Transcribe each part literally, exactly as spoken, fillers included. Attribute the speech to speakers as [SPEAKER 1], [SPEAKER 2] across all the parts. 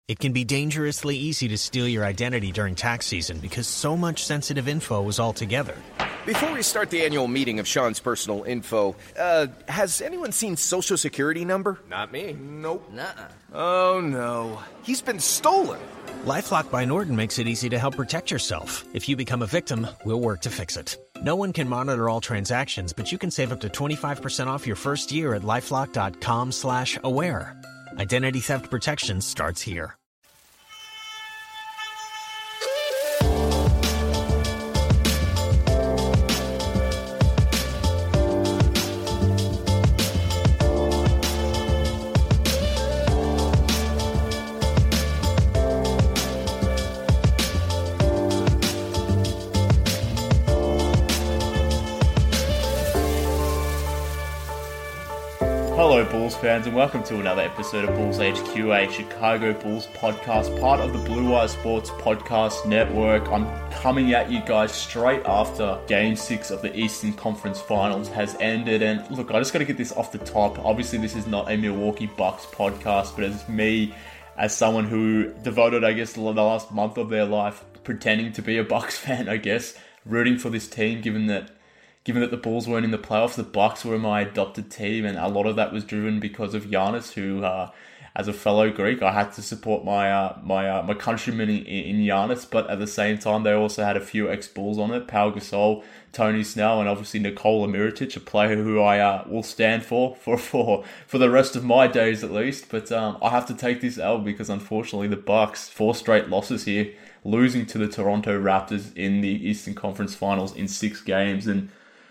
[SPEAKER 1] It can be dangerously easy to steal your identity during tax season because so much sensitive info is all together.
[SPEAKER 2] Before we start the annual meeting of Sean's personal info, uh, has anyone seen Social Security number?
[SPEAKER 3] Not me.
[SPEAKER 2] Nope.
[SPEAKER 3] Nuh-uh.
[SPEAKER 2] Oh, no. He's been stolen.
[SPEAKER 1] LifeLock by Norton makes it easy to help protect yourself. If you become a victim, we'll work to fix it. No one can monitor all transactions, but you can save up to twenty-five percent off your first year at LifeLock.com slash aware. Identity theft protection starts here.
[SPEAKER 4] Hello Bulls fans and welcome to another episode of Bulls H Q, a Chicago Bulls podcast, part of the Blue Wire Sports Podcast Network. I'm coming at you guys straight after Game six of the Eastern Conference Finals has ended, and look, I just got to get this off the top. Obviously this is not a Milwaukee Bucks podcast, but it's me as someone who devoted, I guess, the last month of their life pretending to be a Bucks fan, I guess, rooting for this team, given that Given that the Bulls weren't in the playoffs, the Bucks were my adopted team, and a lot of that was driven because of Giannis, who, uh, as a fellow Greek, I had to support my uh, my uh, my countrymen in, in Giannis. But at the same time, they also had a few ex-Bulls on it: Pau Gasol, Tony Snell, and obviously Nikola Mirotic, a player who I uh, will stand for for for for the rest of my days at least. But um, I have to take this L because unfortunately, the Bucks, four straight losses here, losing to the Toronto Raptors in the Eastern Conference Finals in six games, and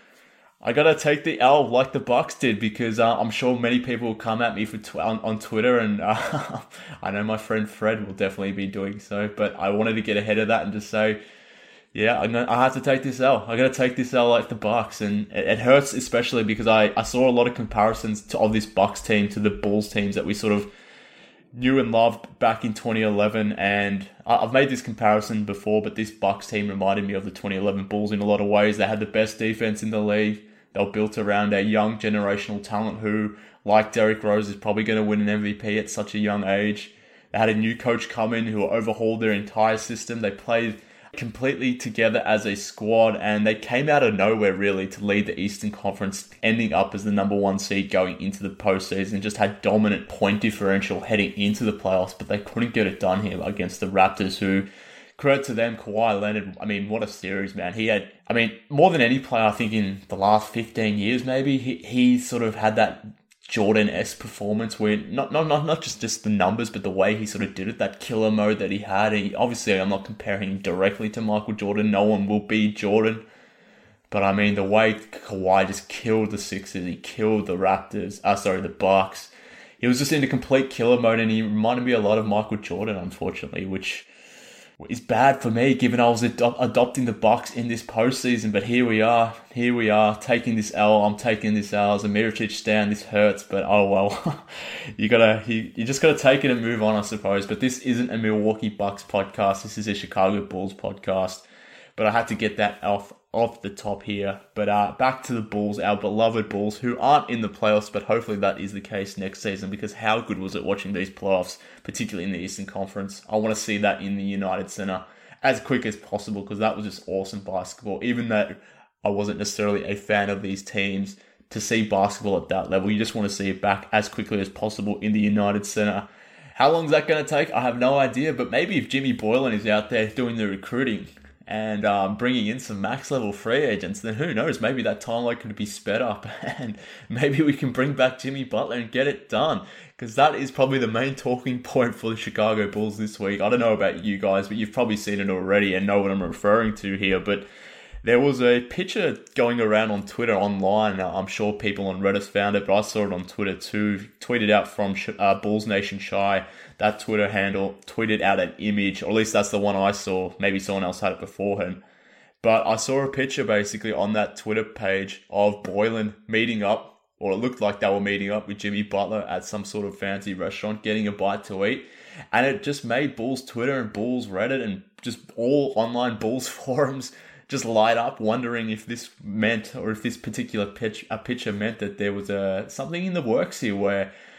[SPEAKER 4] I gotta take the L like the Bucks did because uh, I'm sure many people will come at me for tw- on, on Twitter, and uh, I know my friend Fred will definitely be doing so. But I wanted to get ahead of that and just say, yeah, I'm gonna, I have to take this L. I gotta take this L like the Bucks, and it, it hurts especially because I, I saw a lot of comparisons to, of this Bucks team to the Bulls teams that we sort of knew and loved back in twenty eleven, and I've made this comparison before, but this Bucks team reminded me of the twenty eleven Bulls in a lot of ways. They had the best defense in the league. They were built around a young generational talent who, like Derrick Rose, is probably going to win an M V P at such a young age. They had a new coach come in who overhauled their entire system. They played completely together as a squad, and they came out of nowhere really to lead the Eastern Conference, ending up as the number one seed going into the postseason. Just had dominant point differential heading into the playoffs, but they couldn't get it done here against the Raptors, who, credit to them, Kawhi Leonard, I mean, what a series, man. He had, I mean, more than any player, I think, in the last fifteen years, maybe, he, he sort of had that Jordan-esque performance where not, not not not just, just the numbers, but the way he sort of did it, that killer mode that he had. And he, obviously, I'm not comparing him directly to Michael Jordan. No one will be Jordan. But, I mean, the way Kawhi just killed the Sixers, he killed the Raptors, uh, sorry, the Bucks. He was just in a complete killer mode, and he reminded me a lot of Michael Jordan, unfortunately, which is bad for me, given I was ad- adopting the Bucks in this postseason. But here we are, here we are, taking this L. I'm taking this L as a Mirotic stand. This hurts, but oh well. you gotta, you, you just gotta take it and move on, I suppose. But this isn't a Milwaukee Bucks podcast. This is a Chicago Bulls podcast. But I had to get that off off the top here. But uh, back to the Bulls, our beloved Bulls, who aren't in the playoffs, but hopefully that is the case next season, because how good was it watching these playoffs, particularly in the Eastern Conference? I want to see that in the United Center as quick as possible, because that was just awesome basketball. Even though I wasn't necessarily a fan of these teams, to see basketball at that level, you just want to see it back as quickly as possible in the United Center. How long is that going to take? I have no idea, but maybe if Jimmy Boylen is out there doing the recruiting and um, bringing in some max level free agents, then who knows, maybe that timeline could be sped up and maybe we can bring back Jimmy Butler and get it done, because that is probably the main talking point for the Chicago Bulls this week. I don't know about you guys, but you've probably seen it already and know what I'm referring to here, but there was a picture going around on Twitter online. I'm sure people on Reddit found it, but I saw it on Twitter too. Tweeted out from uh, Bulls Nation Shy. That Twitter handle tweeted out an image, or at least that's the one I saw. Maybe someone else had it before him. But I saw a picture basically on that Twitter page of Boylen meeting up, or it looked like they were meeting up with Jimmy Butler at some sort of fancy restaurant, getting a bite to eat. And it just made Bulls Twitter and Bulls Reddit and just all online Bulls forums just light up, wondering if this meant, or if this particular pitch, a picture meant that there was a something in the works here where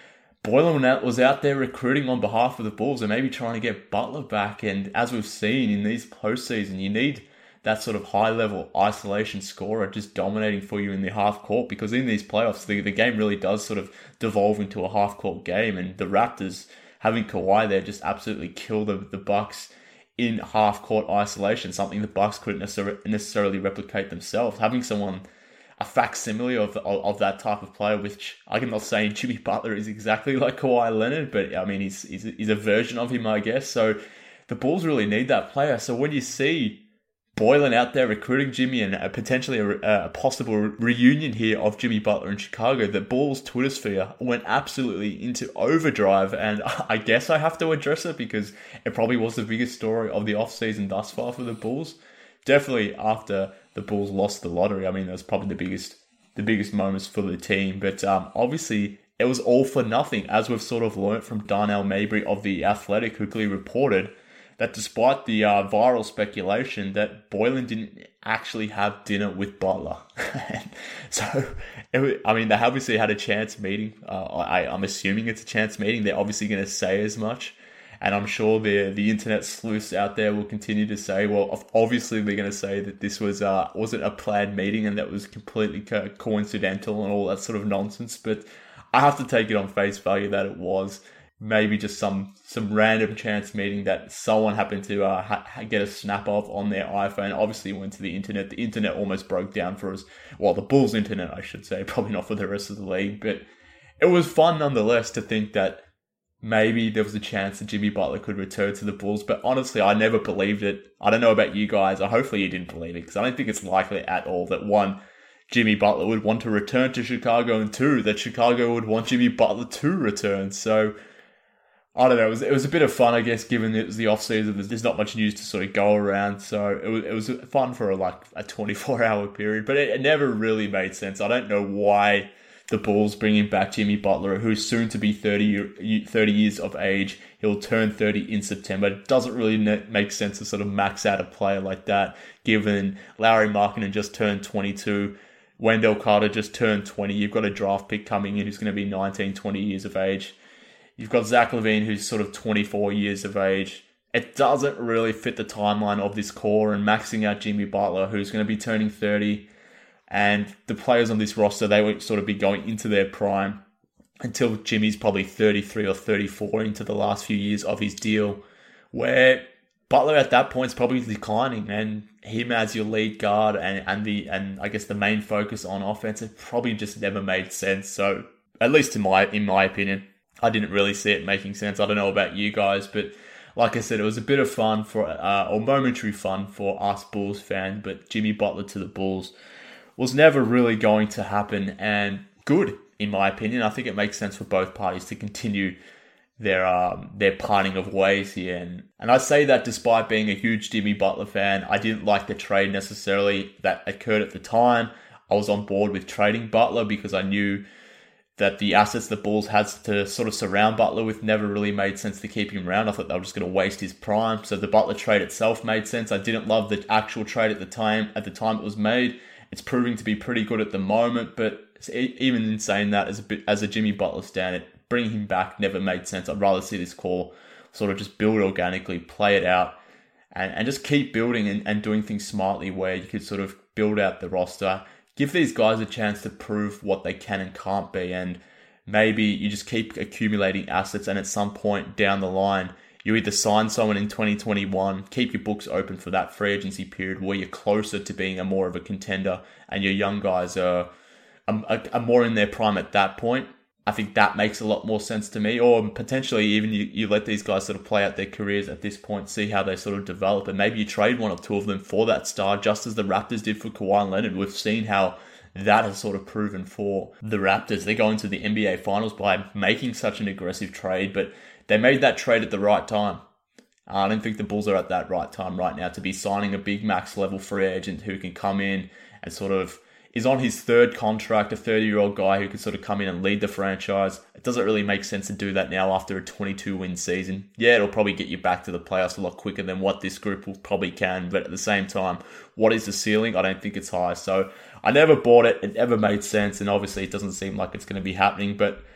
[SPEAKER 4] Boylen was out there recruiting on behalf of the Bulls and maybe trying to get Butler back. And as we've seen in these postseason, you need that sort of high-level isolation scorer just dominating for you in the half-court, because in these playoffs, the, the game really does sort of devolve into a half-court game, and the Raptors, having Kawhi there, just absolutely kill the, the Bucks in half-court isolation, something the Bucks couldn't necessarily, necessarily replicate themselves. Having someone, a facsimile of, of of that type of player, which I'm not saying Jimmy Butler is exactly like Kawhi Leonard, but I mean, he's, he's, he's a version of him, I guess. So the Bulls really need that player. So when you see Boylen out there recruiting Jimmy and a potentially a, a possible reunion here of Jimmy Butler in Chicago, the Bulls Twitter sphere went absolutely into overdrive, and I guess I have to address it because it probably was the biggest story of the offseason thus far for the Bulls. Definitely after the Bulls lost the lottery, I mean, that was probably the biggest the biggest moments for the team, but um, obviously it was all for nothing, as we've sort of learnt from Darnell Mabry of The Athletic, who clearly reported that despite the uh, viral speculation that Boylen didn't actually have dinner with Butler. so, it, I mean, they obviously had a chance meeting. Uh, I, I'm assuming it's a chance meeting. They're obviously going to say as much. And I'm sure the the internet sleuths out there will continue to say, well, obviously they're going to say that this was uh, wasn't a planned meeting and that was completely co- coincidental and all that sort of nonsense. But I have to take it on face value that it was maybe just some some random chance meeting that someone happened to uh, ha- get a snap of on their iPhone. Obviously went to the internet. The internet almost broke down for us. Well, the Bulls internet, I should say. Probably not for the rest of the league. But it was fun nonetheless to think that maybe there was a chance that Jimmy Butler could return to the Bulls. But honestly, I never believed it. I don't know about you guys. Or hopefully you didn't believe it, because I don't think it's likely at all that, one, Jimmy Butler would want to return to Chicago, and two, that Chicago would want Jimmy Butler to return. So I don't know, it was, it was a bit of fun, I guess, given it was the off-season. There's not much news to sort of go around, so it was, it was fun for a, like a twenty-four hour period, but it, it never really made sense. I don't know why the Bulls bringing back Jimmy Butler, who's soon to be thirty, thirty years of age. He'll turn thirty in September. It doesn't really make sense to sort of max out a player like that, given Lauri Markkanen just turned twenty-two, Wendell Carter just turned twenty. You've got a draft pick coming in who's going to be nineteen, twenty years of age. You've got Zach LaVine, who's sort of twenty-four years of age. It doesn't really fit the timeline of this core, and maxing out Jimmy Butler, who's going to be turning thirty. And the players on this roster, they won't sort of be going into their prime until Jimmy's probably thirty-three or thirty-four into the last few years of his deal, where Butler at that point is probably declining, and him as your lead guard and, and the and I guess the main focus on offense, it probably just never made sense. So at least in my in my opinion, I didn't really see it making sense. I don't know about you guys, but like I said, it was a bit of fun for uh, or momentary fun for us Bulls fans, but Jimmy Butler to the Bulls was never really going to happen, and good, in my opinion. I think it makes sense for both parties to continue their um, their parting of ways here. And, and I say that despite being a huge Jimmy Butler fan. I didn't like the trade necessarily that occurred at the time. I was on board with trading Butler because I knew that the assets the Bulls had to sort of surround Butler with never really made sense to keep him around. I thought they were just going to waste his prime. So the Butler trade itself made sense. I didn't love the actual trade at the time. At the time it was made. It's proving to be pretty good at the moment, but even in saying that, as a bit, as a Jimmy Butler stan, bringing him back never made sense. I'd rather see this core sort of just build organically, play it out, and, and just keep building and, and doing things smartly where you could sort of build out the roster, give these guys a chance to prove what they can and can't be, and maybe you just keep accumulating assets, and at some point down the line, you either sign someone in twenty twenty-one, keep your books open for that free agency period where you're closer to being a more of a contender and your young guys are, are, are more in their prime at that point. I think that makes a lot more sense to me. Or potentially even you, you let these guys sort of play out their careers at this point, see how they sort of develop, and maybe you trade one or two of them for that star, just as the Raptors did for Kawhi Leonard. We've seen how that has sort of proven for the Raptors. They go into the N B A Finals by making such an aggressive trade, but they made that trade at the right time. I don't think the Bulls are at that right time right now to be signing a big max level free agent who can come in and sort of is on his third contract, a thirty-year-old guy who can sort of come in and lead the franchise. It doesn't really make sense to do that now after a twenty-two win season. Yeah, it'll probably get you back to the playoffs a lot quicker than what this group will probably can, but at the same time, what is the ceiling? I don't think it's high. So I never bought it. It never made sense, and obviously it doesn't seem like it's going to be happening, but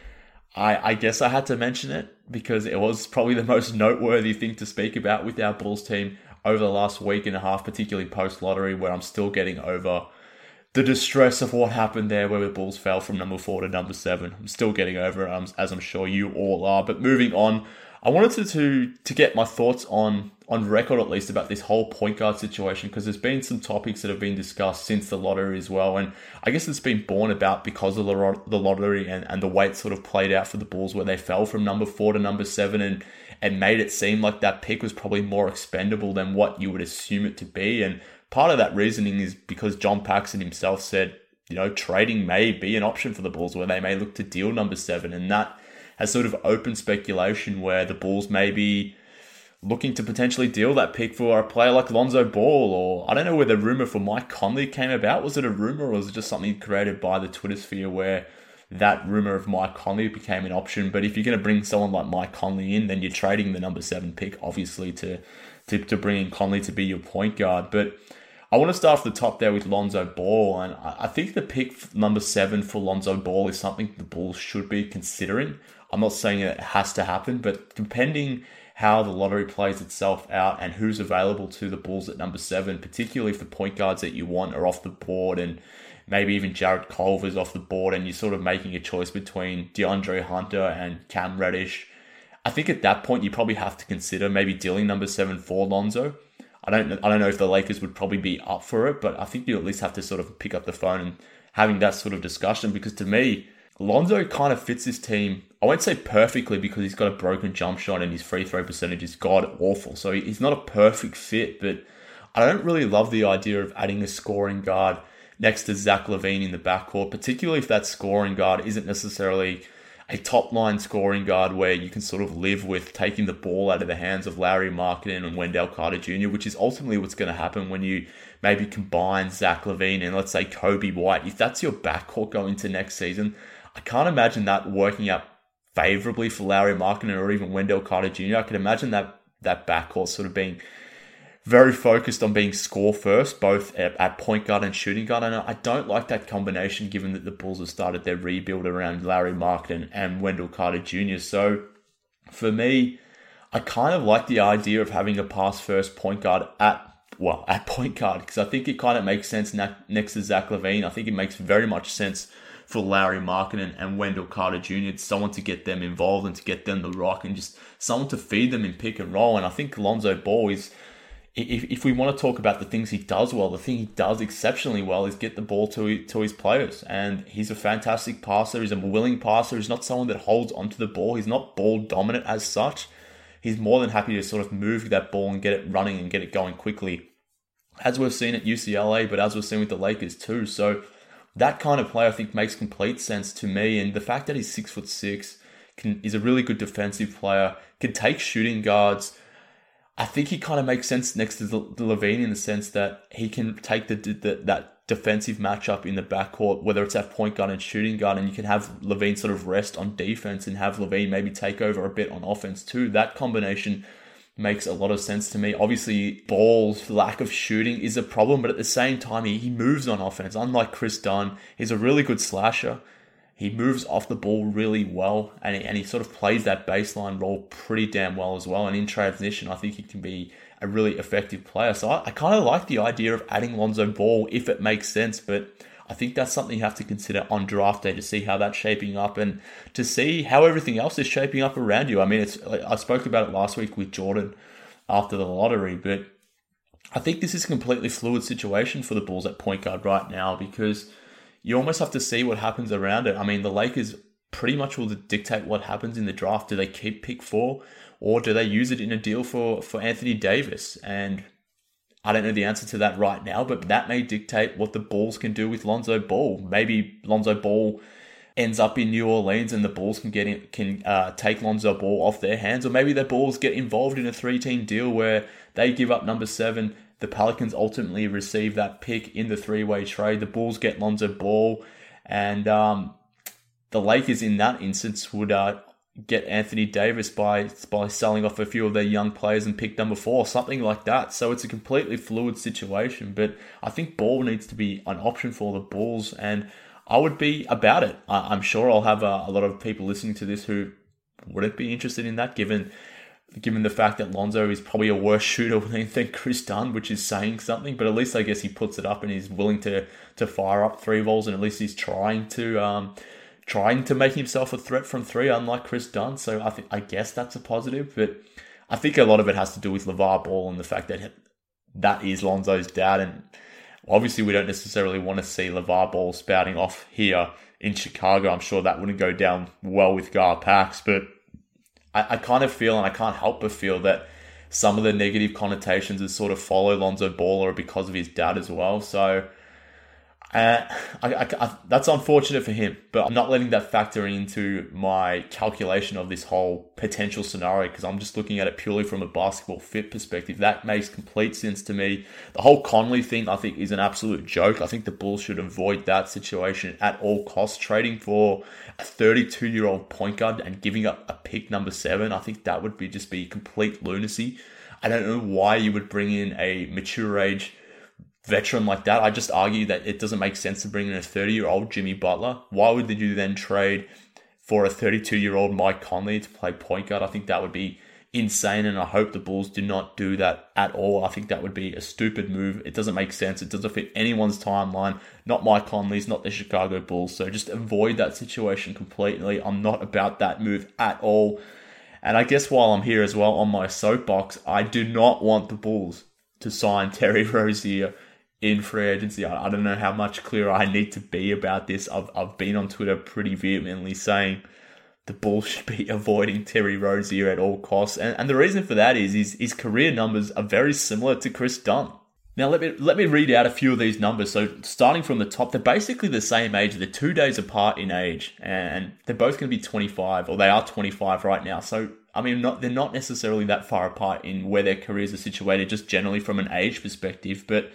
[SPEAKER 4] I, I guess I had to mention it because it was probably the most noteworthy thing to speak about with our Bulls team over the last week and a half, particularly post-lottery, where I'm still getting over the distress of what happened there where the Bulls fell from number four to number seven. I'm still getting over it, um, as I'm sure you all are. But moving on, I wanted to to, to get my thoughts on, on record at least about this whole point guard situation, because there's been some topics that have been discussed since the lottery as well. And I guess it's been born about because of the, the lottery and, and the way it sort of played out for the Bulls, where they fell from number four to number seven and, and made it seem like that pick was probably more expendable than what you would assume it to be. And part of that reasoning is because John Paxson himself said, you know, trading may be an option for the Bulls, where they may look to deal number seven. And that has sort of opened speculation where the Bulls may be looking to potentially deal that pick for a player like Lonzo Ball. Or I don't know where the rumor for Mike Conley came about. Was it a rumor, or was it just something created by the Twitter sphere where that rumor of Mike Conley became an option? But if you're going to bring someone like Mike Conley in, then you're trading the number seven pick, obviously, to, to, to bring in Conley to be your point guard. But I want to start off the top there with Lonzo Ball, and I think the pick number seven for Lonzo Ball is something the Bulls should be considering. I'm not saying that it has to happen, but depending how the lottery plays itself out and who's available to the Bulls at number seven, particularly if the point guards that you want are off the board and maybe even Jarrett Culver's off the board, and you're sort of making a choice between DeAndre Hunter and Cam Reddish, I think at that point you probably have to consider maybe dealing number seven for Lonzo. I don't I don't know if the Lakers would probably be up for it, but I think you at least have to sort of pick up the phone and having that sort of discussion, because to me, Lonzo kind of fits this team. I won't say perfectly, because he's got a broken jump shot and his free throw percentage is god awful. So he's not a perfect fit, but I don't really love the idea of adding a scoring guard next to Zach LaVine in the backcourt, particularly if that scoring guard isn't necessarily a top-line scoring guard where you can sort of live with taking the ball out of the hands of Lauri Markkanen and Wendell Carter Junior, which is ultimately what's going to happen when you maybe combine Zach LaVine and, let's say, Kobe White. If that's your backcourt going into next season, I can't imagine that working out favorably for Lauri Markkanen or even Wendell Carter Junior I could imagine that that backcourt sort of being very focused on being score first, both at, at point guard and shooting guard. And I don't like that combination, given that the Bulls have started their rebuild around Lauri Markkanen and Wendell Carter Junior So for me, I kind of like the idea of having a pass first point guard at well at point guard, because I think it kind of makes sense next to Zach LaVine. I think it makes very much sense for Lauri Markkanen and Wendell Carter Junior It's someone to get them involved and to get them the rock and just someone to feed them in pick and roll. And I think Lonzo Ball is, if, if we want to talk about the things he does well, the thing he does exceptionally well is get the ball to, to his players. And he's a fantastic passer. He's a willing passer. He's not someone that holds onto the ball. He's not ball dominant as such. He's more than happy to sort of move that ball and get it running and get it going quickly, as we've seen at U C L A, but as we've seen with the Lakers too. So that kind of play, I think, makes complete sense to me. And the fact that he's six foot six, can, is a really good defensive player, can take shooting guards. I think he kind of makes sense next to the, the LaVine in the sense that he can take the, the that defensive matchup in the backcourt, whether it's at point guard and shooting guard, and you can have LaVine sort of rest on defense and have LaVine maybe take over a bit on offense too. That combination makes a lot of sense to me. Obviously, Ball's lack of shooting is a problem, but at the same time, he, he moves on offense. Unlike Chris Dunn, he's a really good slasher. He moves off the ball really well, and he, and he sort of plays that baseline role pretty damn well as well. And in transition, I think he can be a really effective player. So I, I kind of like the idea of adding Lonzo Ball if it makes sense, but I think that's something you have to consider on draft day to see how that's shaping up and to see how everything else is shaping up around you. I mean, it's I spoke about it last week with Jordan after the lottery, but I think this is a completely fluid situation for the Bulls at point guard right now, because you almost have to see what happens around it. I mean, the Lakers pretty much will dictate what happens in the draft. Do they keep pick four, or do they use it in a deal for, for Anthony Davis? And I don't know the answer to that right now, but that may dictate what the Bulls can do with Lonzo Ball. Maybe Lonzo Ball ends up in New Orleans and the Bulls can get in, can uh, take Lonzo Ball off their hands, or maybe the Bulls get involved in a three-team deal where they give up number seven. The Pelicans ultimately receive that pick in the three-way trade. The Bulls get Lonzo Ball, and um, the Lakers in that instance would uh, get Anthony Davis by by selling off a few of their young players and pick number four, something like that. So it's a completely fluid situation, but I think Ball needs to be an option for the Bulls, and I would be about it. I, I'm sure I'll have a, a lot of people listening to this who wouldn't be interested in that, given given the fact that Lonzo is probably a worse shooter than, than Chris Dunn, which is saying something. But at least I guess he puts it up and he's willing to to fire up three balls, and at least he's trying to um, trying to make himself a threat from three, unlike Chris Dunn. So I think I guess that's a positive. But I think a lot of it has to do with LeVar Ball and the fact that that is Lonzo's dad, and obviously we don't necessarily want to see LeVar Ball spouting off here in Chicago. I'm sure that wouldn't go down well with Gar Pax, but I, I kind of feel, and I can't help but feel, that some of the negative connotations that sort of follow Lonzo Ball are because of his dad as well. So uh, I, I, I, that's unfortunate for him, but I'm not letting that factor into my calculation of this whole potential scenario, because I'm just looking at it purely from a basketball fit perspective. That makes complete sense to me. The whole Conley thing, I think, is an absolute joke. I think the Bulls should avoid that situation at all costs. Trading for a thirty-two-year-old point guard and giving up a pick number seven, I think that would be just be complete lunacy. I don't know why you would bring in a mature age veteran like that. I just argue that it doesn't make sense to bring in a thirty-year-old Jimmy Butler. Why would you then trade for a thirty-two-year-old Mike Conley to play point guard? I think that would be insane, and I hope the Bulls do not do that at all. I think that would be a stupid move. It doesn't make sense. It doesn't fit anyone's timeline. Not Mike Conley's, not the Chicago Bulls. So just avoid that situation completely. I'm not about that move at all. And I guess while I'm here as well on my soapbox, I do not want the Bulls to sign Terry Rozier in free agency. I, I don't know how much clearer I need to be about this. I've I've been on Twitter pretty vehemently saying the Bulls should be avoiding Terry Rozier at all costs. And, and the reason for that is his, his career numbers are very similar to Chris Dunn. Now, let me let me read out a few of these numbers. So starting from the top, they're basically the same age. They're two days apart in age, and they're both going to be twenty-five, or they are twenty-five right now. So, I mean, not they're not necessarily that far apart in where their careers are situated, just generally from an age perspective. But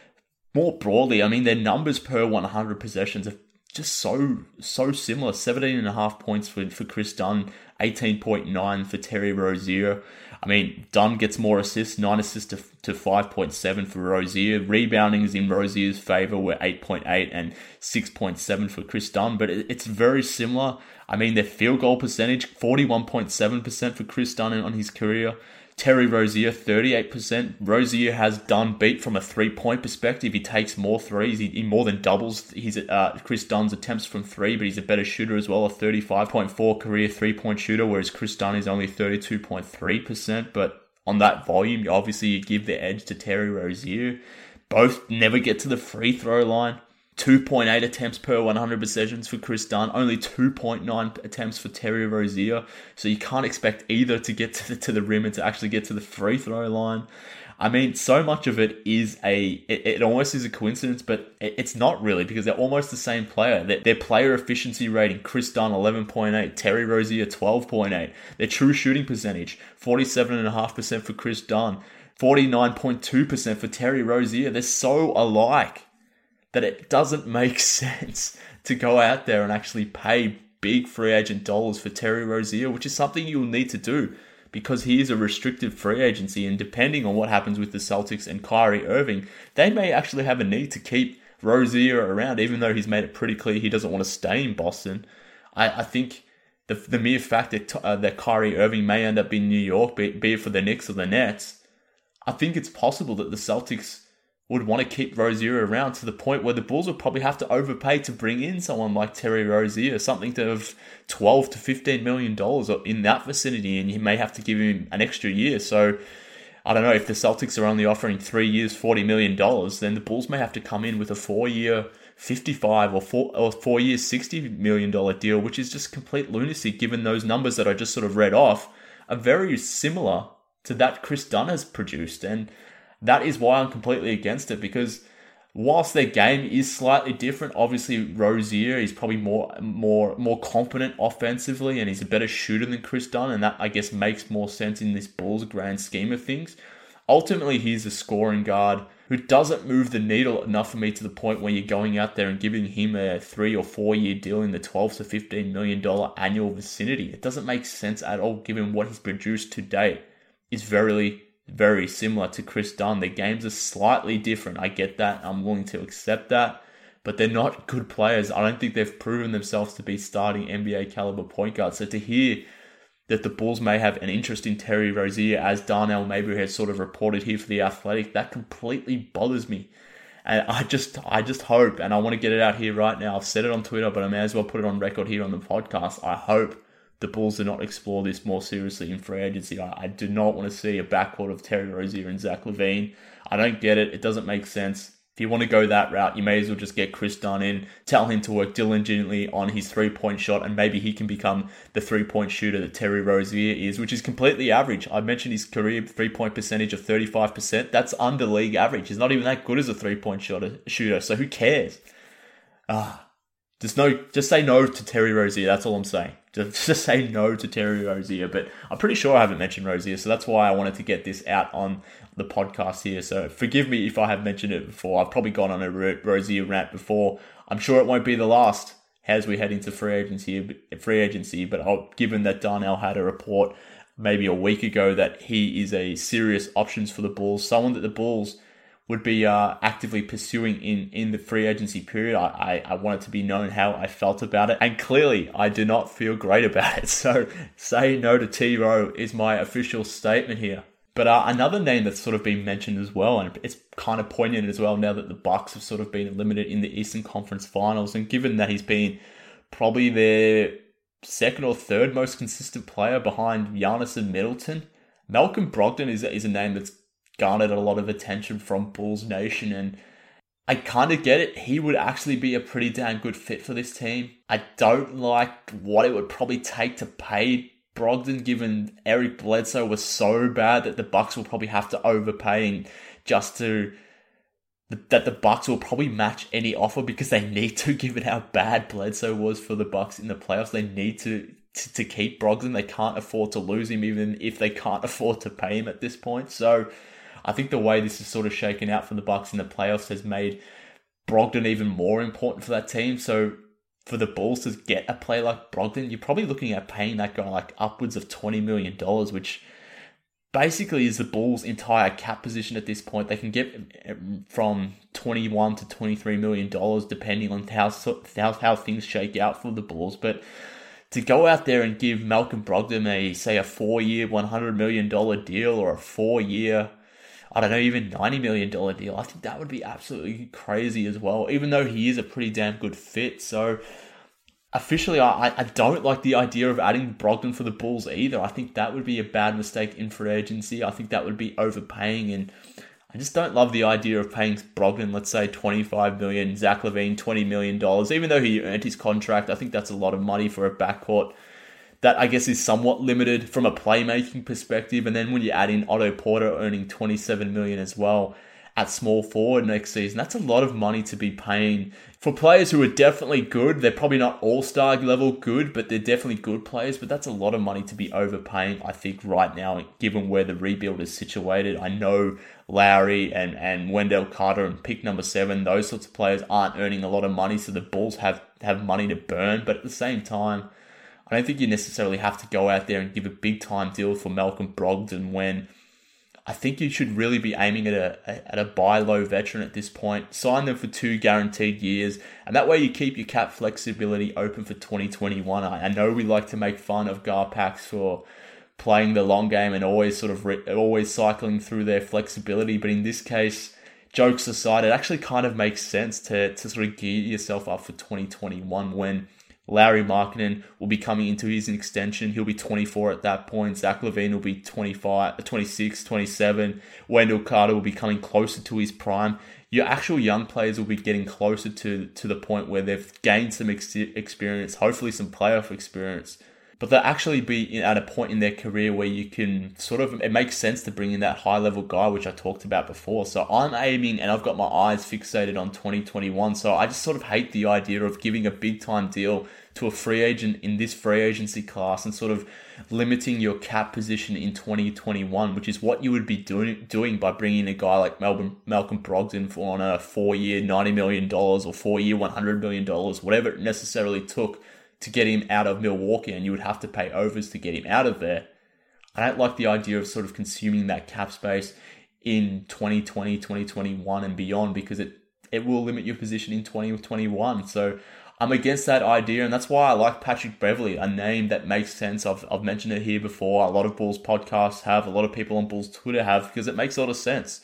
[SPEAKER 4] more broadly, I mean, their numbers per one hundred possessions are just so, so similar. seventeen and a half points for, for Chris Dunn, eighteen point nine for Terry Rozier. I mean, Dunn gets more assists, nine assists to, to five point seven for Rozier. Rebounding is in Rozier's favor, were eight point eight and six point seven for Chris Dunn, but it, it's very similar. I mean, their field goal percentage, forty-one point seven percent for Chris Dunn on his career. Terry Rozier, thirty-eight percent. Rozier has Dunn beat from a three-point perspective. He takes more threes. He, he more than doubles his uh, Chris Dunn's attempts from three, but he's a better shooter as well, a thirty-five point four career three-point shooter, whereas Chris Dunn is only thirty-two point three percent. But on that volume, obviously you give the edge to Terry Rozier. Both never get to the free throw line. two point eight attempts per one hundred possessions for Chris Dunn, only two point nine attempts for Terry Rozier. So you can't expect either to get to the, to the rim and to actually get to the free throw line. I mean, so much of it is a, it, it almost is a coincidence, but it, it's not really, because they're almost the same player. Their, their player efficiency rating, Chris Dunn, eleven point eight, Terry Rozier, twelve point eight. Their true shooting percentage, forty-seven point five percent for Chris Dunn, forty-nine point two percent for Terry Rozier. They're so alike that it doesn't make sense to go out there and actually pay big free agent dollars for Terry Rozier, which is something you'll need to do because he is a restricted free agency, and depending on what happens with the Celtics and Kyrie Irving, they may actually have a need to keep Rozier around, even though he's made it pretty clear he doesn't want to stay in Boston. I, I think the the mere fact that, uh, that Kyrie Irving may end up in New York, be, be it for the Knicks or the Nets, I think it's possible that the Celtics would want to keep Rozier around to the point where the Bulls would probably have to overpay to bring in someone like Terry Rozier, something to have twelve to fifteen million dollars in that vicinity, and you may have to give him an extra year. So I don't know, if the Celtics are only offering three years, forty million dollars, then the Bulls may have to come in with a four-year fifty-five or four or four years, sixty million dollars deal, which is just complete lunacy given those numbers that I just sort of read off are very similar to that Chris Dunn has produced. And that is why I'm completely against it, because whilst their game is slightly different, obviously Rozier is probably more more more competent offensively, and he's a better shooter than Chris Dunn, and that, I guess, makes more sense in this Bulls grand scheme of things. Ultimately, he's a scoring guard who doesn't move the needle enough for me to the point where you're going out there and giving him a three or four year deal in the twelve to fifteen million dollars annual vicinity. It doesn't make sense at all given what he's produced to date. It's very very similar to Chris Dunn. Their games are slightly different. I get that. I'm willing to accept that. but they're not good players. I don't think they've proven themselves to be starting N B A caliber point guards. So to hear that the Bulls may have an interest in Terry Rozier, as Darnell Mayberry has sort of reported here for The Athletic, that completely bothers me. And I just I just hope, and I want to get it out here right now, I've said it on Twitter, but I may as well put it on record here on the podcast, I hope the Bulls do not explore this more seriously in free agency. I, I do not want to see a backcourt of Terry Rozier and Zach LaVine. I don't get it. It doesn't make sense. If you want to go that route, you may as well just get Chris Dunn in, tell him to work diligently on his three-point shot, and maybe he can become the three-point shooter that Terry Rozier is, which is completely average. I mentioned his career three-point percentage of thirty-five percent. That's under league average. He's not even that good as a three-point shooter, so who cares? Ah, just no, just say no to Terry Rozier. That's all I'm saying. Just, just say no to Terry Rozier. But I'm pretty sure I haven't mentioned Rozier, so that's why I wanted to get this out on the podcast here. So forgive me if I have mentioned it before. I've probably gone on a Rozier rant before. I'm sure it won't be the last as we head into free agency. Free agency, but I'll, given that Darnell had a report maybe a week ago that he is a serious options for the Bulls, someone that the Bulls would be uh, actively pursuing in, in the free agency period. I, I, I want it to be known how I felt about it. And clearly, I do not feel great about it. So, say no to T-Row is my official statement here. But uh, another name that's sort of been mentioned as well, and it's kind of poignant as well now that the Bucks have sort of been eliminated in the Eastern Conference Finals, and given that he's been probably their second or third most consistent player behind Giannis and Middleton, Malcolm Brogdon is, is a name that's garnered a lot of attention from Bulls Nation, and I kind of get it. He would actually be a pretty damn good fit for this team. I don't like what it would probably take to pay Brogdon, given Eric Bledsoe was so bad that the Bucks will probably have to overpay just to that the Bucks will probably match any offer because they need to, given how bad Bledsoe was for the Bucks in the playoffs. They need to to, to keep Brogdon. They can't afford to lose him, even if they can't afford to pay him at this point. So I think the way this is sort of shaken out for the Bucks in the playoffs has made Brogdon even more important for that team. So for the Bulls to get a player like Brogdon, you're probably looking at paying that guy like upwards of twenty million dollars, which basically is the Bulls' entire cap position at this point. They can get from twenty-one to twenty-three million dollars depending on how, how, how things shake out for the Bulls. But to go out there and give Malcolm Brogdon a, say, a four-year, one hundred million dollars deal, or a four-year, I don't know, even ninety million dollars deal, I think that would be absolutely crazy as well, even though he is a pretty damn good fit. So officially, I, I don't like the idea of adding Brogdon for the Bulls either. I think that would be a bad mistake in free agency. I think that would be overpaying, and I just don't love the idea of paying Brogdon, let's say twenty-five million dollars, Zach LaVine twenty million dollars, even though he earned his contract. I think that's a lot of money for a backcourt that I guess is somewhat limited from a playmaking perspective. And then when you add in Otto Porter earning twenty-seven million dollars as well at small forward next season, that's a lot of money to be paying for players who are definitely good. They're probably not all-star level good, but they're definitely good players. But that's a lot of money to be overpaying, I think, right now, given where the rebuild is situated. I know Lowry and, and Wendell Carter and pick number seven, those sorts of players aren't earning a lot of money, so the Bulls have, have money to burn. But at the same time, I don't think you necessarily have to go out there and give a big-time deal for Malcolm Brogdon when I think you should really be aiming at a at a buy low veteran at this point. Sign them for two guaranteed years, and that way you keep your cap flexibility open for twenty twenty-one. I, I know we like to make fun of Garpax for playing the long game and always sort of re- always cycling through their flexibility, but in this case, jokes aside, it actually kind of makes sense to to sort of gear yourself up for twenty twenty-one when Lauri Markkanen will be coming into his extension. He'll be twenty-four at that point. Zach LaVine will be twenty-five, twenty-six, twenty-seven. Wendell Carter will be coming closer to his prime. Your actual young players will be getting closer to, to the point where they've gained some ex- experience, hopefully some playoff experience. But they'll actually be at a point in their career where you can sort of, it makes sense to bring in that high-level guy, which I talked about before. So I'm aiming, and I've got my eyes fixated on twenty twenty-one. So I just sort of hate the idea of giving a big-time deal to a free agent in this free agency class and sort of limiting your cap position in twenty twenty-one, which is what you would be doing doing by bringing a guy like Melbourne, Malcolm Brogdon for on a four-year ninety million dollars or four-year one hundred million dollars, whatever it necessarily took to get him out of Milwaukee, and you would have to pay overs to get him out of there. I don't like the idea of sort of consuming that cap space in twenty twenty, twenty twenty-one and beyond, because it it will limit your position in twenty twenty-one. So I'm against that idea, and that's why I like Patrick Beverley, a name that makes sense. I've, I've mentioned it here before. A lot of Bulls podcasts have, a lot of people on Bulls Twitter have, because it makes a lot of sense.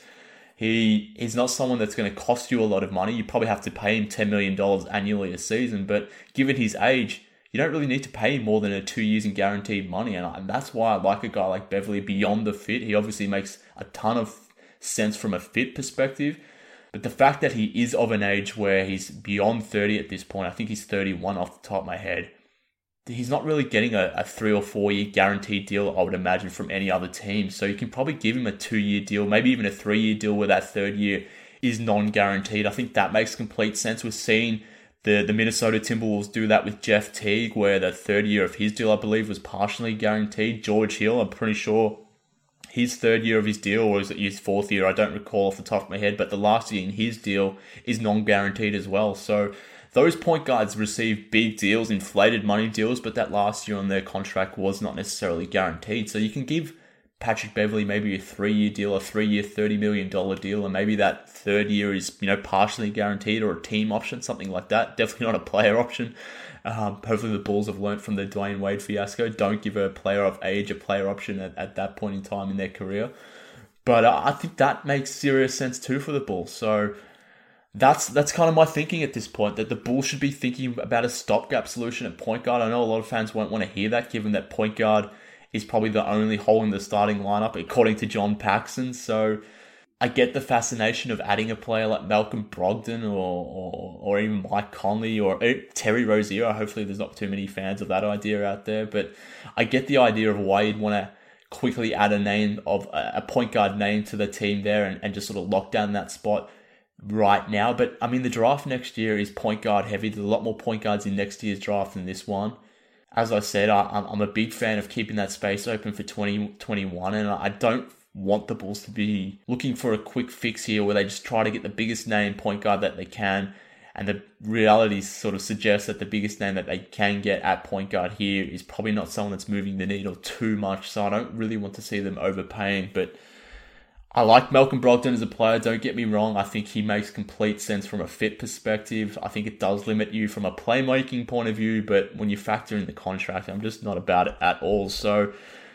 [SPEAKER 4] He He's not someone that's going to cost you a lot of money. You probably have to pay him ten million dollars annually a season, but given his age, you don't really need to pay him more than a two years in guaranteed money, and, I, and that's why I like a guy like Beverley beyond the fit. He obviously makes a ton of sense from a fit perspective, but the fact that he is of an age where he's beyond thirty at this point, I think he's thirty-one off the top of my head, he's not really getting a, a three or four year guaranteed deal, I would imagine, from any other team. So you can probably give him a two year deal, maybe even a three year deal where that third year is non-guaranteed. I think that makes complete sense. We're seeing the, the Minnesota Timberwolves do that with Jeff Teague, where the third year of his deal, I believe, was partially guaranteed. George Hill, I'm pretty sure his third year of his deal, or is it his fourth year? I don't recall off the top of my head, but the last year in his deal is non-guaranteed as well. So those point guards receive big deals, inflated money deals, but that last year on their contract was not necessarily guaranteed. So you can give Patrick Beverley maybe a three-year deal, a three-year thirty million dollars deal, and maybe that third year is, you know, partially guaranteed, or a team option, something like that. Definitely not a player option. Um, hopefully the Bulls have learnt from the Dwayne Wade fiasco. Don't give a player of age a player option at, at that point in time in their career. But uh, I think that makes serious sense too for the Bulls. So that's that's kind of my thinking at this point, that the Bulls should be thinking about a stopgap solution at point guard. I know a lot of fans won't want to hear that, given that point guard is probably the only hole in the starting lineup, according to John Paxson. So I get the fascination of adding a player like Malcolm Brogdon or or, or even Mike Conley or Terry Rozier. Hopefully there's not too many fans of that idea out there, but I get the idea of why you'd want to quickly add a name of a point guard name to the team there and, and just sort of lock down that spot right now. But I mean, the draft next year is point guard heavy. There's a lot more point guards in next year's draft than this one. As I said, I, I'm a big fan of keeping that space open for twenty twenty-one, and I don't want the Bulls to be looking for a quick fix here where they just try to get the biggest name point guard that they can, and the reality sort of suggests that the biggest name that they can get at point guard here is probably not someone that's moving the needle too much, so I don't really want to see them overpaying. But I like Malcolm Brogdon as a player, don't get me wrong. I think he makes complete sense from a fit perspective. I think it does limit you from a playmaking point of view, but when you factor in the contract, I'm just not about it at all. So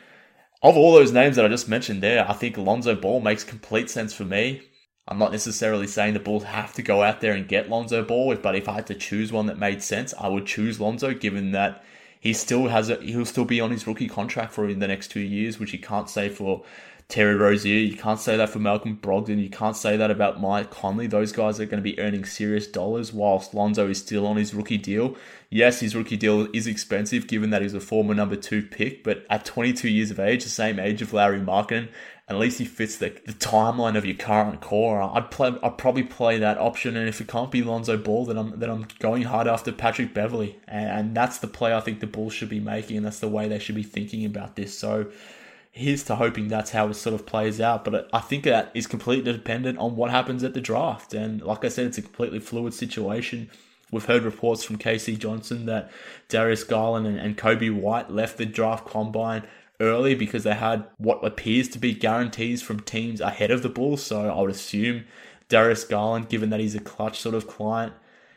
[SPEAKER 4] of all those names that I just mentioned there, I think Lonzo Ball makes complete sense for me. I'm not necessarily saying the Bulls have to go out there and get Lonzo Ball, but if I had to choose one that made sense, I would choose Lonzo, given that he still has a, he'll still be on his rookie contract for the next two years, which you can't say for Terry Rozier. You can't say that for Malcolm Brogdon. You can't say that about Mike Conley. Those guys are going to be earning serious dollars whilst Lonzo is still on his rookie deal. Yes, his rookie deal is expensive given that he's a former number two pick, but at twenty-two years of age, the same age of Larry Markkinen, at least he fits the, the timeline of your current core. I'd play. I'd probably play that option, and if it can't be Lonzo Ball, then I'm then I'm going hard after Patrick Beverley, and, and that's the play I think the Bulls should be making, and that's the way they should be thinking about this. So here's to hoping that's how it sort of plays out. But I think that is completely dependent on what happens at the draft. And like I said, it's a completely fluid situation. We've heard reports from K C Johnson that Darius Garland and, and Kobe White left the draft combine early because they had what appears to be guarantees from teams ahead of the Bulls. So I would assume Darius Garland, given that he's a clutch sort of client,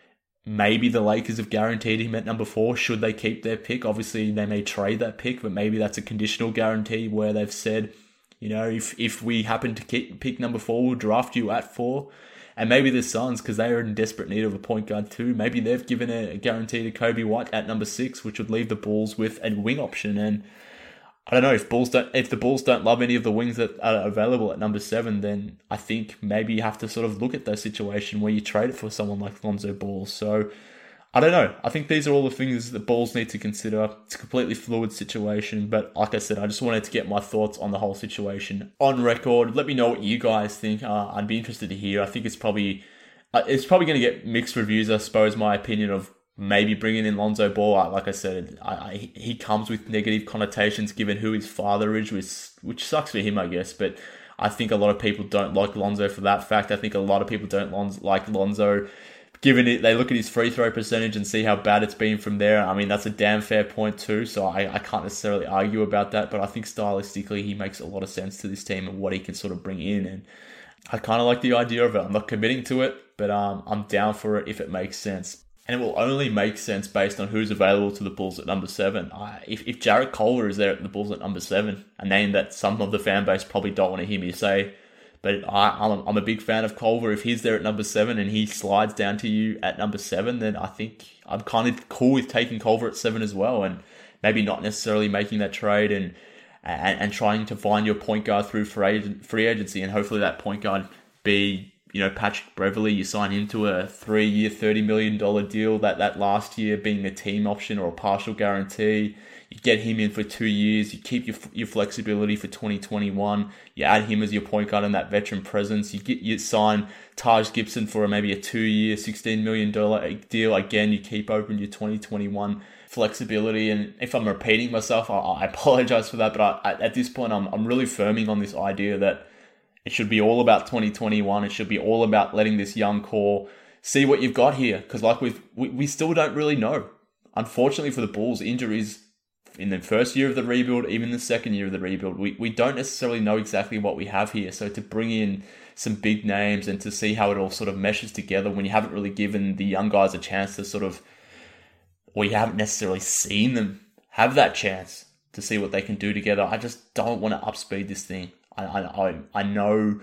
[SPEAKER 4] maybe the Lakers have guaranteed him at number four should they keep their pick. Obviously, they may trade that pick, but maybe that's a conditional guarantee where they've said, you know, if, if we happen to keep, pick number four, we'll draft you at four. And maybe the Suns, because they are in desperate need of a point guard too, maybe they've given a guarantee to Kobe White at number six, which would leave the Bulls with a wing option. And I don't know, if Bulls don't, if the Bulls don't love any of the wings that are available at number seven, then I think maybe you have to sort of look at that situation where you trade it for someone like Lonzo Ball. So I don't know. I think these are all the things that Bulls need to consider. It's a completely fluid situation, but like I said, I just wanted to get my thoughts on the whole situation on record. Let me know what you guys think. Uh, I'd be interested to hear. I think it's probably uh, it's probably going to get mixed reviews, I suppose. My opinion of maybe bringing in Lonzo Ball, like I said, I, I, he comes with negative connotations given who his father is, which, which sucks for him, I guess. But I think a lot of people don't like Lonzo for that fact. I think a lot of people don't Lon- like Lonzo given it, they look at his free throw percentage and see how bad it's been from there. I mean, that's a damn fair point too, so I, I can't necessarily argue about that, but I think stylistically he makes a lot of sense to this team and what he can sort of bring in, and I kind of like the idea of it. I'm not committing to it, but um, I'm down for it if it makes sense. And it will only make sense based on who's available to the Bulls at number seven. I, if, if Jarrett Culver is there at the Bulls at number seven, a name that some of the fan base probably don't want to hear me say, but I, I'm, I'm a big fan of Culver. If he's there at number seven and he slides down to you at number seven, then I think I'm kind of cool with taking Culver at seven as well, and maybe not necessarily making that trade and and, and trying to find your point guard through free agency, and hopefully that point guard be, you know, Patrick Beverley. You sign him to a three-year, thirty million dollars deal, that, that last year being a team option or a partial guarantee. You get him in for two years. You keep your your flexibility for twenty twenty-one. You add him as your point guard and that veteran presence. You get you sign Taj Gibson for maybe a two-year, sixteen million dollars deal. Again, you keep open your twenty twenty-one flexibility. And if I'm repeating myself, I, I apologize for that. But I, at this point, I'm I'm really firming on this idea that it should be all about twenty twenty-one. It should be all about letting this young core see what you've got here. Because like we've, we we still don't really know. Unfortunately for the Bulls, injuries in the first year of the rebuild, even the second year of the rebuild, we, we don't necessarily know exactly what we have here. So to bring in some big names and to see how it all sort of meshes together when you haven't really given the young guys a chance to sort of, or you haven't necessarily seen them have that chance to see what they can do together, I just don't want to upspeed this thing. I I I know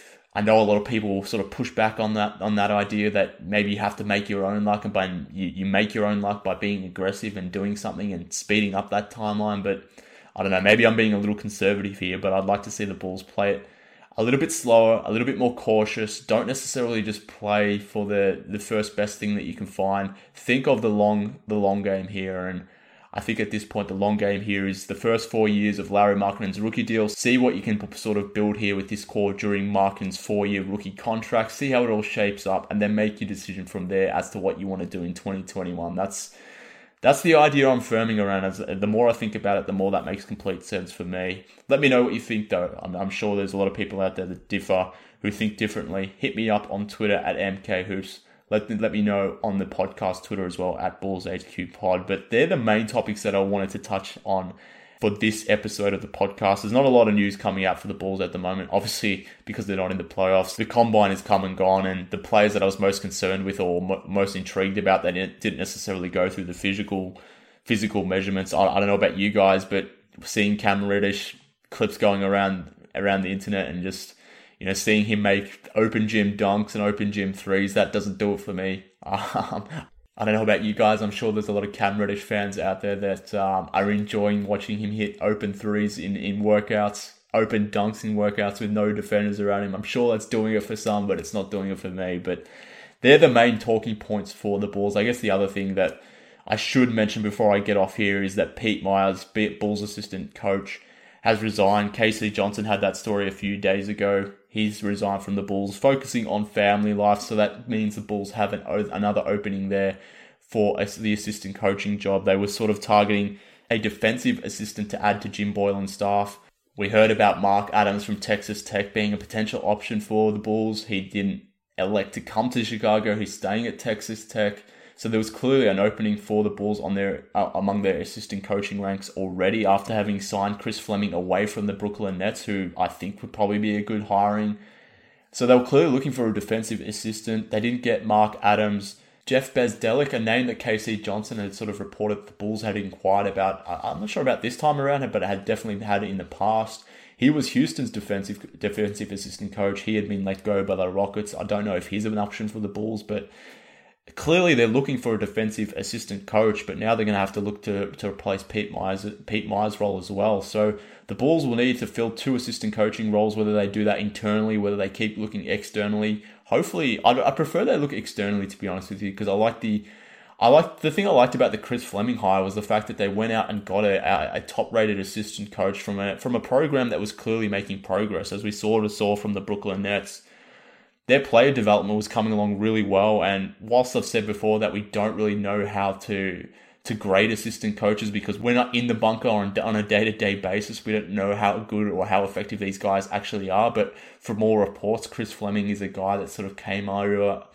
[SPEAKER 4] I know a lot of people will sort of push back on that on that idea that maybe you have to make your own luck, and by you, you make your own luck by being aggressive and doing something and speeding up that timeline. But I don't know, maybe I'm being a little conservative here, but I'd like to see the Bulls play it a little bit slower, a little bit more cautious. Don't necessarily just play for the, the first best thing that you can find. Think of the long the long game here, and I think at this point, the long game here is the first four years of Lauri Markkanen's rookie deal. See what you can sort of build here with this core during Markkanen's four-year rookie contract. See how it all shapes up, and then make your decision from there as to what you want to do in twenty twenty-one. That's that's the idea I'm firming around. As the more I think about it, the more that makes complete sense for me. Let me know what you think, though. I'm, I'm sure there's a lot of people out there that differ, who think differently. Hit me up on Twitter at M K Hoops. Let, let me know on the podcast Twitter as well, at Bulls H Q Pod. But they're the main topics that I wanted to touch on for this episode of the podcast. There's not a lot of news coming out for the Bulls at the moment, obviously, because they're not in the playoffs. The combine is come and gone, and the players that I was most concerned with or mo- most intrigued about, they didn't necessarily go through the physical physical measurements. I, I don't know about you guys, but seeing Cam Reddish clips going around around the internet and just, you know, seeing him make open gym dunks and open gym threes, that doesn't do it for me. Um, I don't know about you guys. I'm sure there's a lot of Cam Reddish fans out there that um, are enjoying watching him hit open threes in, in workouts, open dunks in workouts with no defenders around him. I'm sure that's doing it for some, but it's not doing it for me. But they're the main talking points for the Bulls. I guess the other thing that I should mention before I get off here is that Pete Myers, Bulls assistant coach, has resigned. K C Johnson had that story a few days ago. He's resigned from the Bulls, focusing on family life. So that means the Bulls have an, another opening there for the assistant coaching job. They were sort of targeting a defensive assistant to add to Jim Boylan's staff. We heard about Mark Adams from Texas Tech being a potential option for the Bulls. He didn't elect to come to Chicago. He's staying at Texas Tech. So there was clearly an opening for the Bulls on their uh, among their assistant coaching ranks already, after having signed Chris Fleming away from the Brooklyn Nets, who I think would probably be a good hiring. So they were clearly looking for a defensive assistant. They didn't get Mark Adams. Jeff Bezdelic, a name that K C Johnson had sort of reported the Bulls had inquired about. I'm not sure about this time around, but it had definitely had it in the past. He was Houston's defensive defensive assistant coach. He had been let go by the Rockets. I don't know if he's an option for the Bulls, but clearly they're looking for a defensive assistant coach, but now they're going to have to look to, to replace Pete Myers' Pete Myers' role as well. So the Bulls will need to fill two assistant coaching roles, whether they do that internally, whether they keep looking externally. Hopefully, I, I prefer they look externally, to be honest with you, because I like the I like the thing I liked about the Chris Fleming hire was the fact that they went out and got a, a, a top-rated assistant coach from a from a program that was clearly making progress, as we sort of saw from the Brooklyn Nets. Their player development was coming along really well, and whilst I've said before that we don't really know how to to grade assistant coaches because we're not in the bunker on, on a day-to-day basis, we don't know how good or how effective these guys actually are, but from all reports, Chris Fleming is a guy that sort of came over,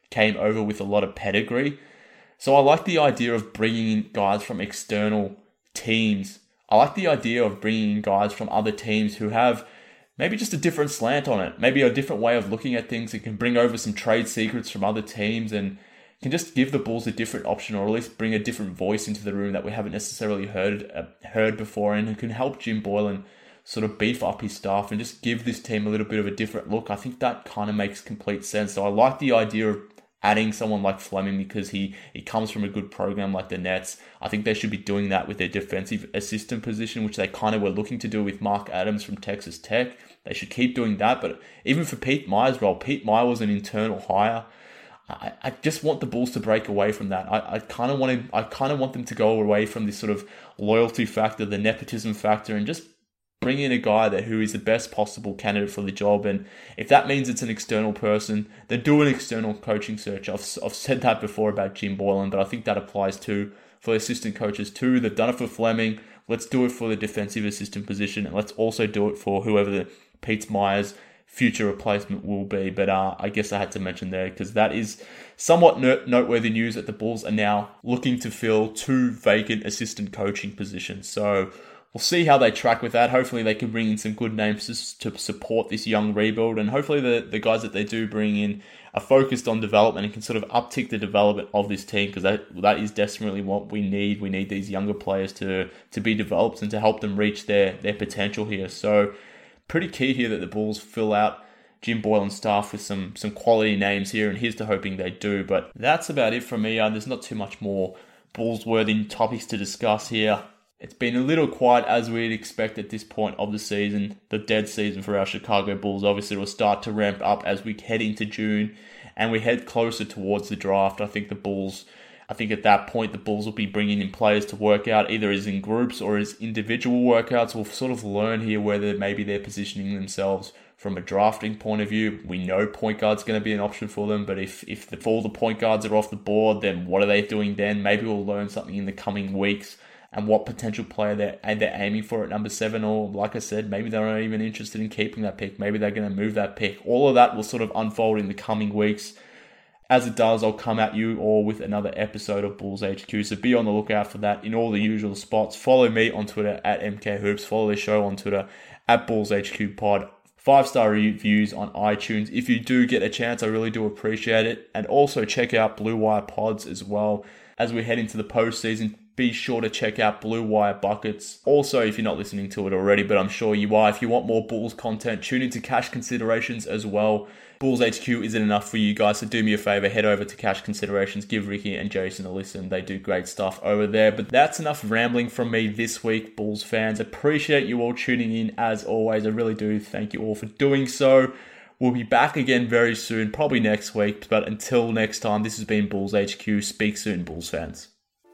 [SPEAKER 4] came over with a lot of pedigree. So I like the idea of bringing in guys from external teams. I like the idea of bringing in guys from other teams who have maybe just a different slant on it, maybe a different way of looking at things. It can bring over some trade secrets from other teams and can just give the Bulls a different option, or at least bring a different voice into the room that we haven't necessarily heard uh, heard before, and who can help Jim Boylen sort of beef up his staff and just give this team a little bit of a different look. I think that kind of makes complete sense. So I like the idea of adding someone like Fleming because he, he comes from a good program like the Nets. I think they should be doing that with their defensive assistant position, which they kind of were looking to do with Mark Adams from Texas Tech. They should keep doing that. But even for Pete Meyer's role, Pete Meyer was an internal hire. I, I just want the Bulls to break away from that. I, I kind of want to, I kind of want them to go away from this sort of loyalty factor, the nepotism factor, and just bring in a guy that who is the best possible candidate for the job. And if that means it's an external person, then do an external coaching search. I've, I've said that before about Jim Boylen, but I think that applies too for assistant coaches too. They've done it for Fleming. Let's do it for the defensive assistant position, and let's also do it for whoever the Pete Meyer's future replacement will be. But uh, I guess I had to mention there because that is somewhat noteworthy news that the Bulls are now looking to fill two vacant assistant coaching positions. So we'll see how they track with that. Hopefully they can bring in some good names to, to support this young rebuild. And hopefully the, the guys that they do bring in are focused on development and can sort of uptick the development of this team, because that that is desperately what we need. We need these younger players to, to be developed and to help them reach their, their potential here. So pretty key here that the Bulls fill out Jim Boylen's staff with some, some quality names here, and here's to hoping they do. But that's about it from me. Uh, there's not too much more Bulls-worthy topics to discuss here. It's been a little quiet as we'd expect at this point of the season, the dead season for our Chicago Bulls. Obviously, it will start to ramp up as we head into June and we head closer towards the draft. I think the Bulls, I think at that point, the Bulls will be bringing in players to work out, either as in groups or as individual workouts. We'll sort of learn here whether maybe they're positioning themselves from a drafting point of view. We know point guard's going to be an option for them, but if, if, the, if all the point guards are off the board, then what are they doing then? Maybe we'll learn something in the coming weeks and what potential player they're, they're aiming for at number seven, or like I said, maybe they're not even interested in keeping that pick. Maybe they're going to move that pick. All of that will sort of unfold in the coming weeks. As it does, I'll come at you all with another episode of Bulls H Q, so be on the lookout for that in all the usual spots. Follow me on Twitter at M K Hoops. Follow the show on Twitter at Bulls H Q Pod. Five-star reviews on iTunes. If you do get a chance, I really do appreciate it. And also check out Blue Wire Pods as well. As we head into the postseason, be sure to check out Blue Wire Buckets. Also, if you're not listening to it already, but I'm sure you are, if you want more Bulls content, tune into Cash Considerations as well. Bulls H Q isn't enough for you guys, so do me a favor, head over to Cash Considerations, give Ricky and Jason a listen. They do great stuff over there. But that's enough rambling from me this week, Bulls fans. Appreciate you all tuning in as always. I really do. Thank you all for doing so. We'll be back again very soon, probably next week. But until next time, this has been Bulls H Q. Speak soon, Bulls fans.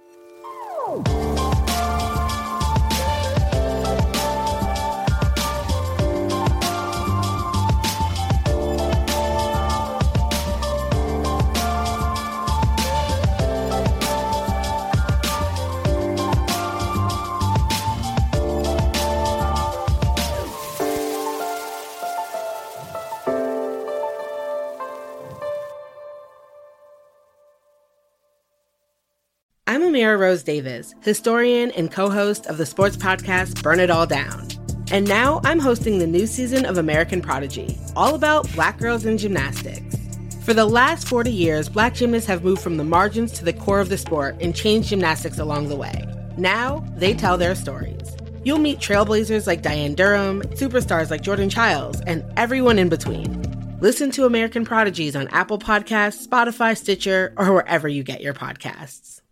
[SPEAKER 3] I'm Amira Rose Davis, historian and co-host of the sports podcast Burn It All Down. And now I'm hosting the new season of American Prodigy, all about Black girls in gymnastics. For the last forty years, Black gymnasts have moved from the margins to the core of the sport and changed gymnastics along the way. Now, they tell their stories. You'll meet trailblazers like Diane Durham, superstars like Jordan Childs, and everyone in between. Listen to American Prodigies on Apple Podcasts, Spotify, Stitcher, or wherever you get your podcasts.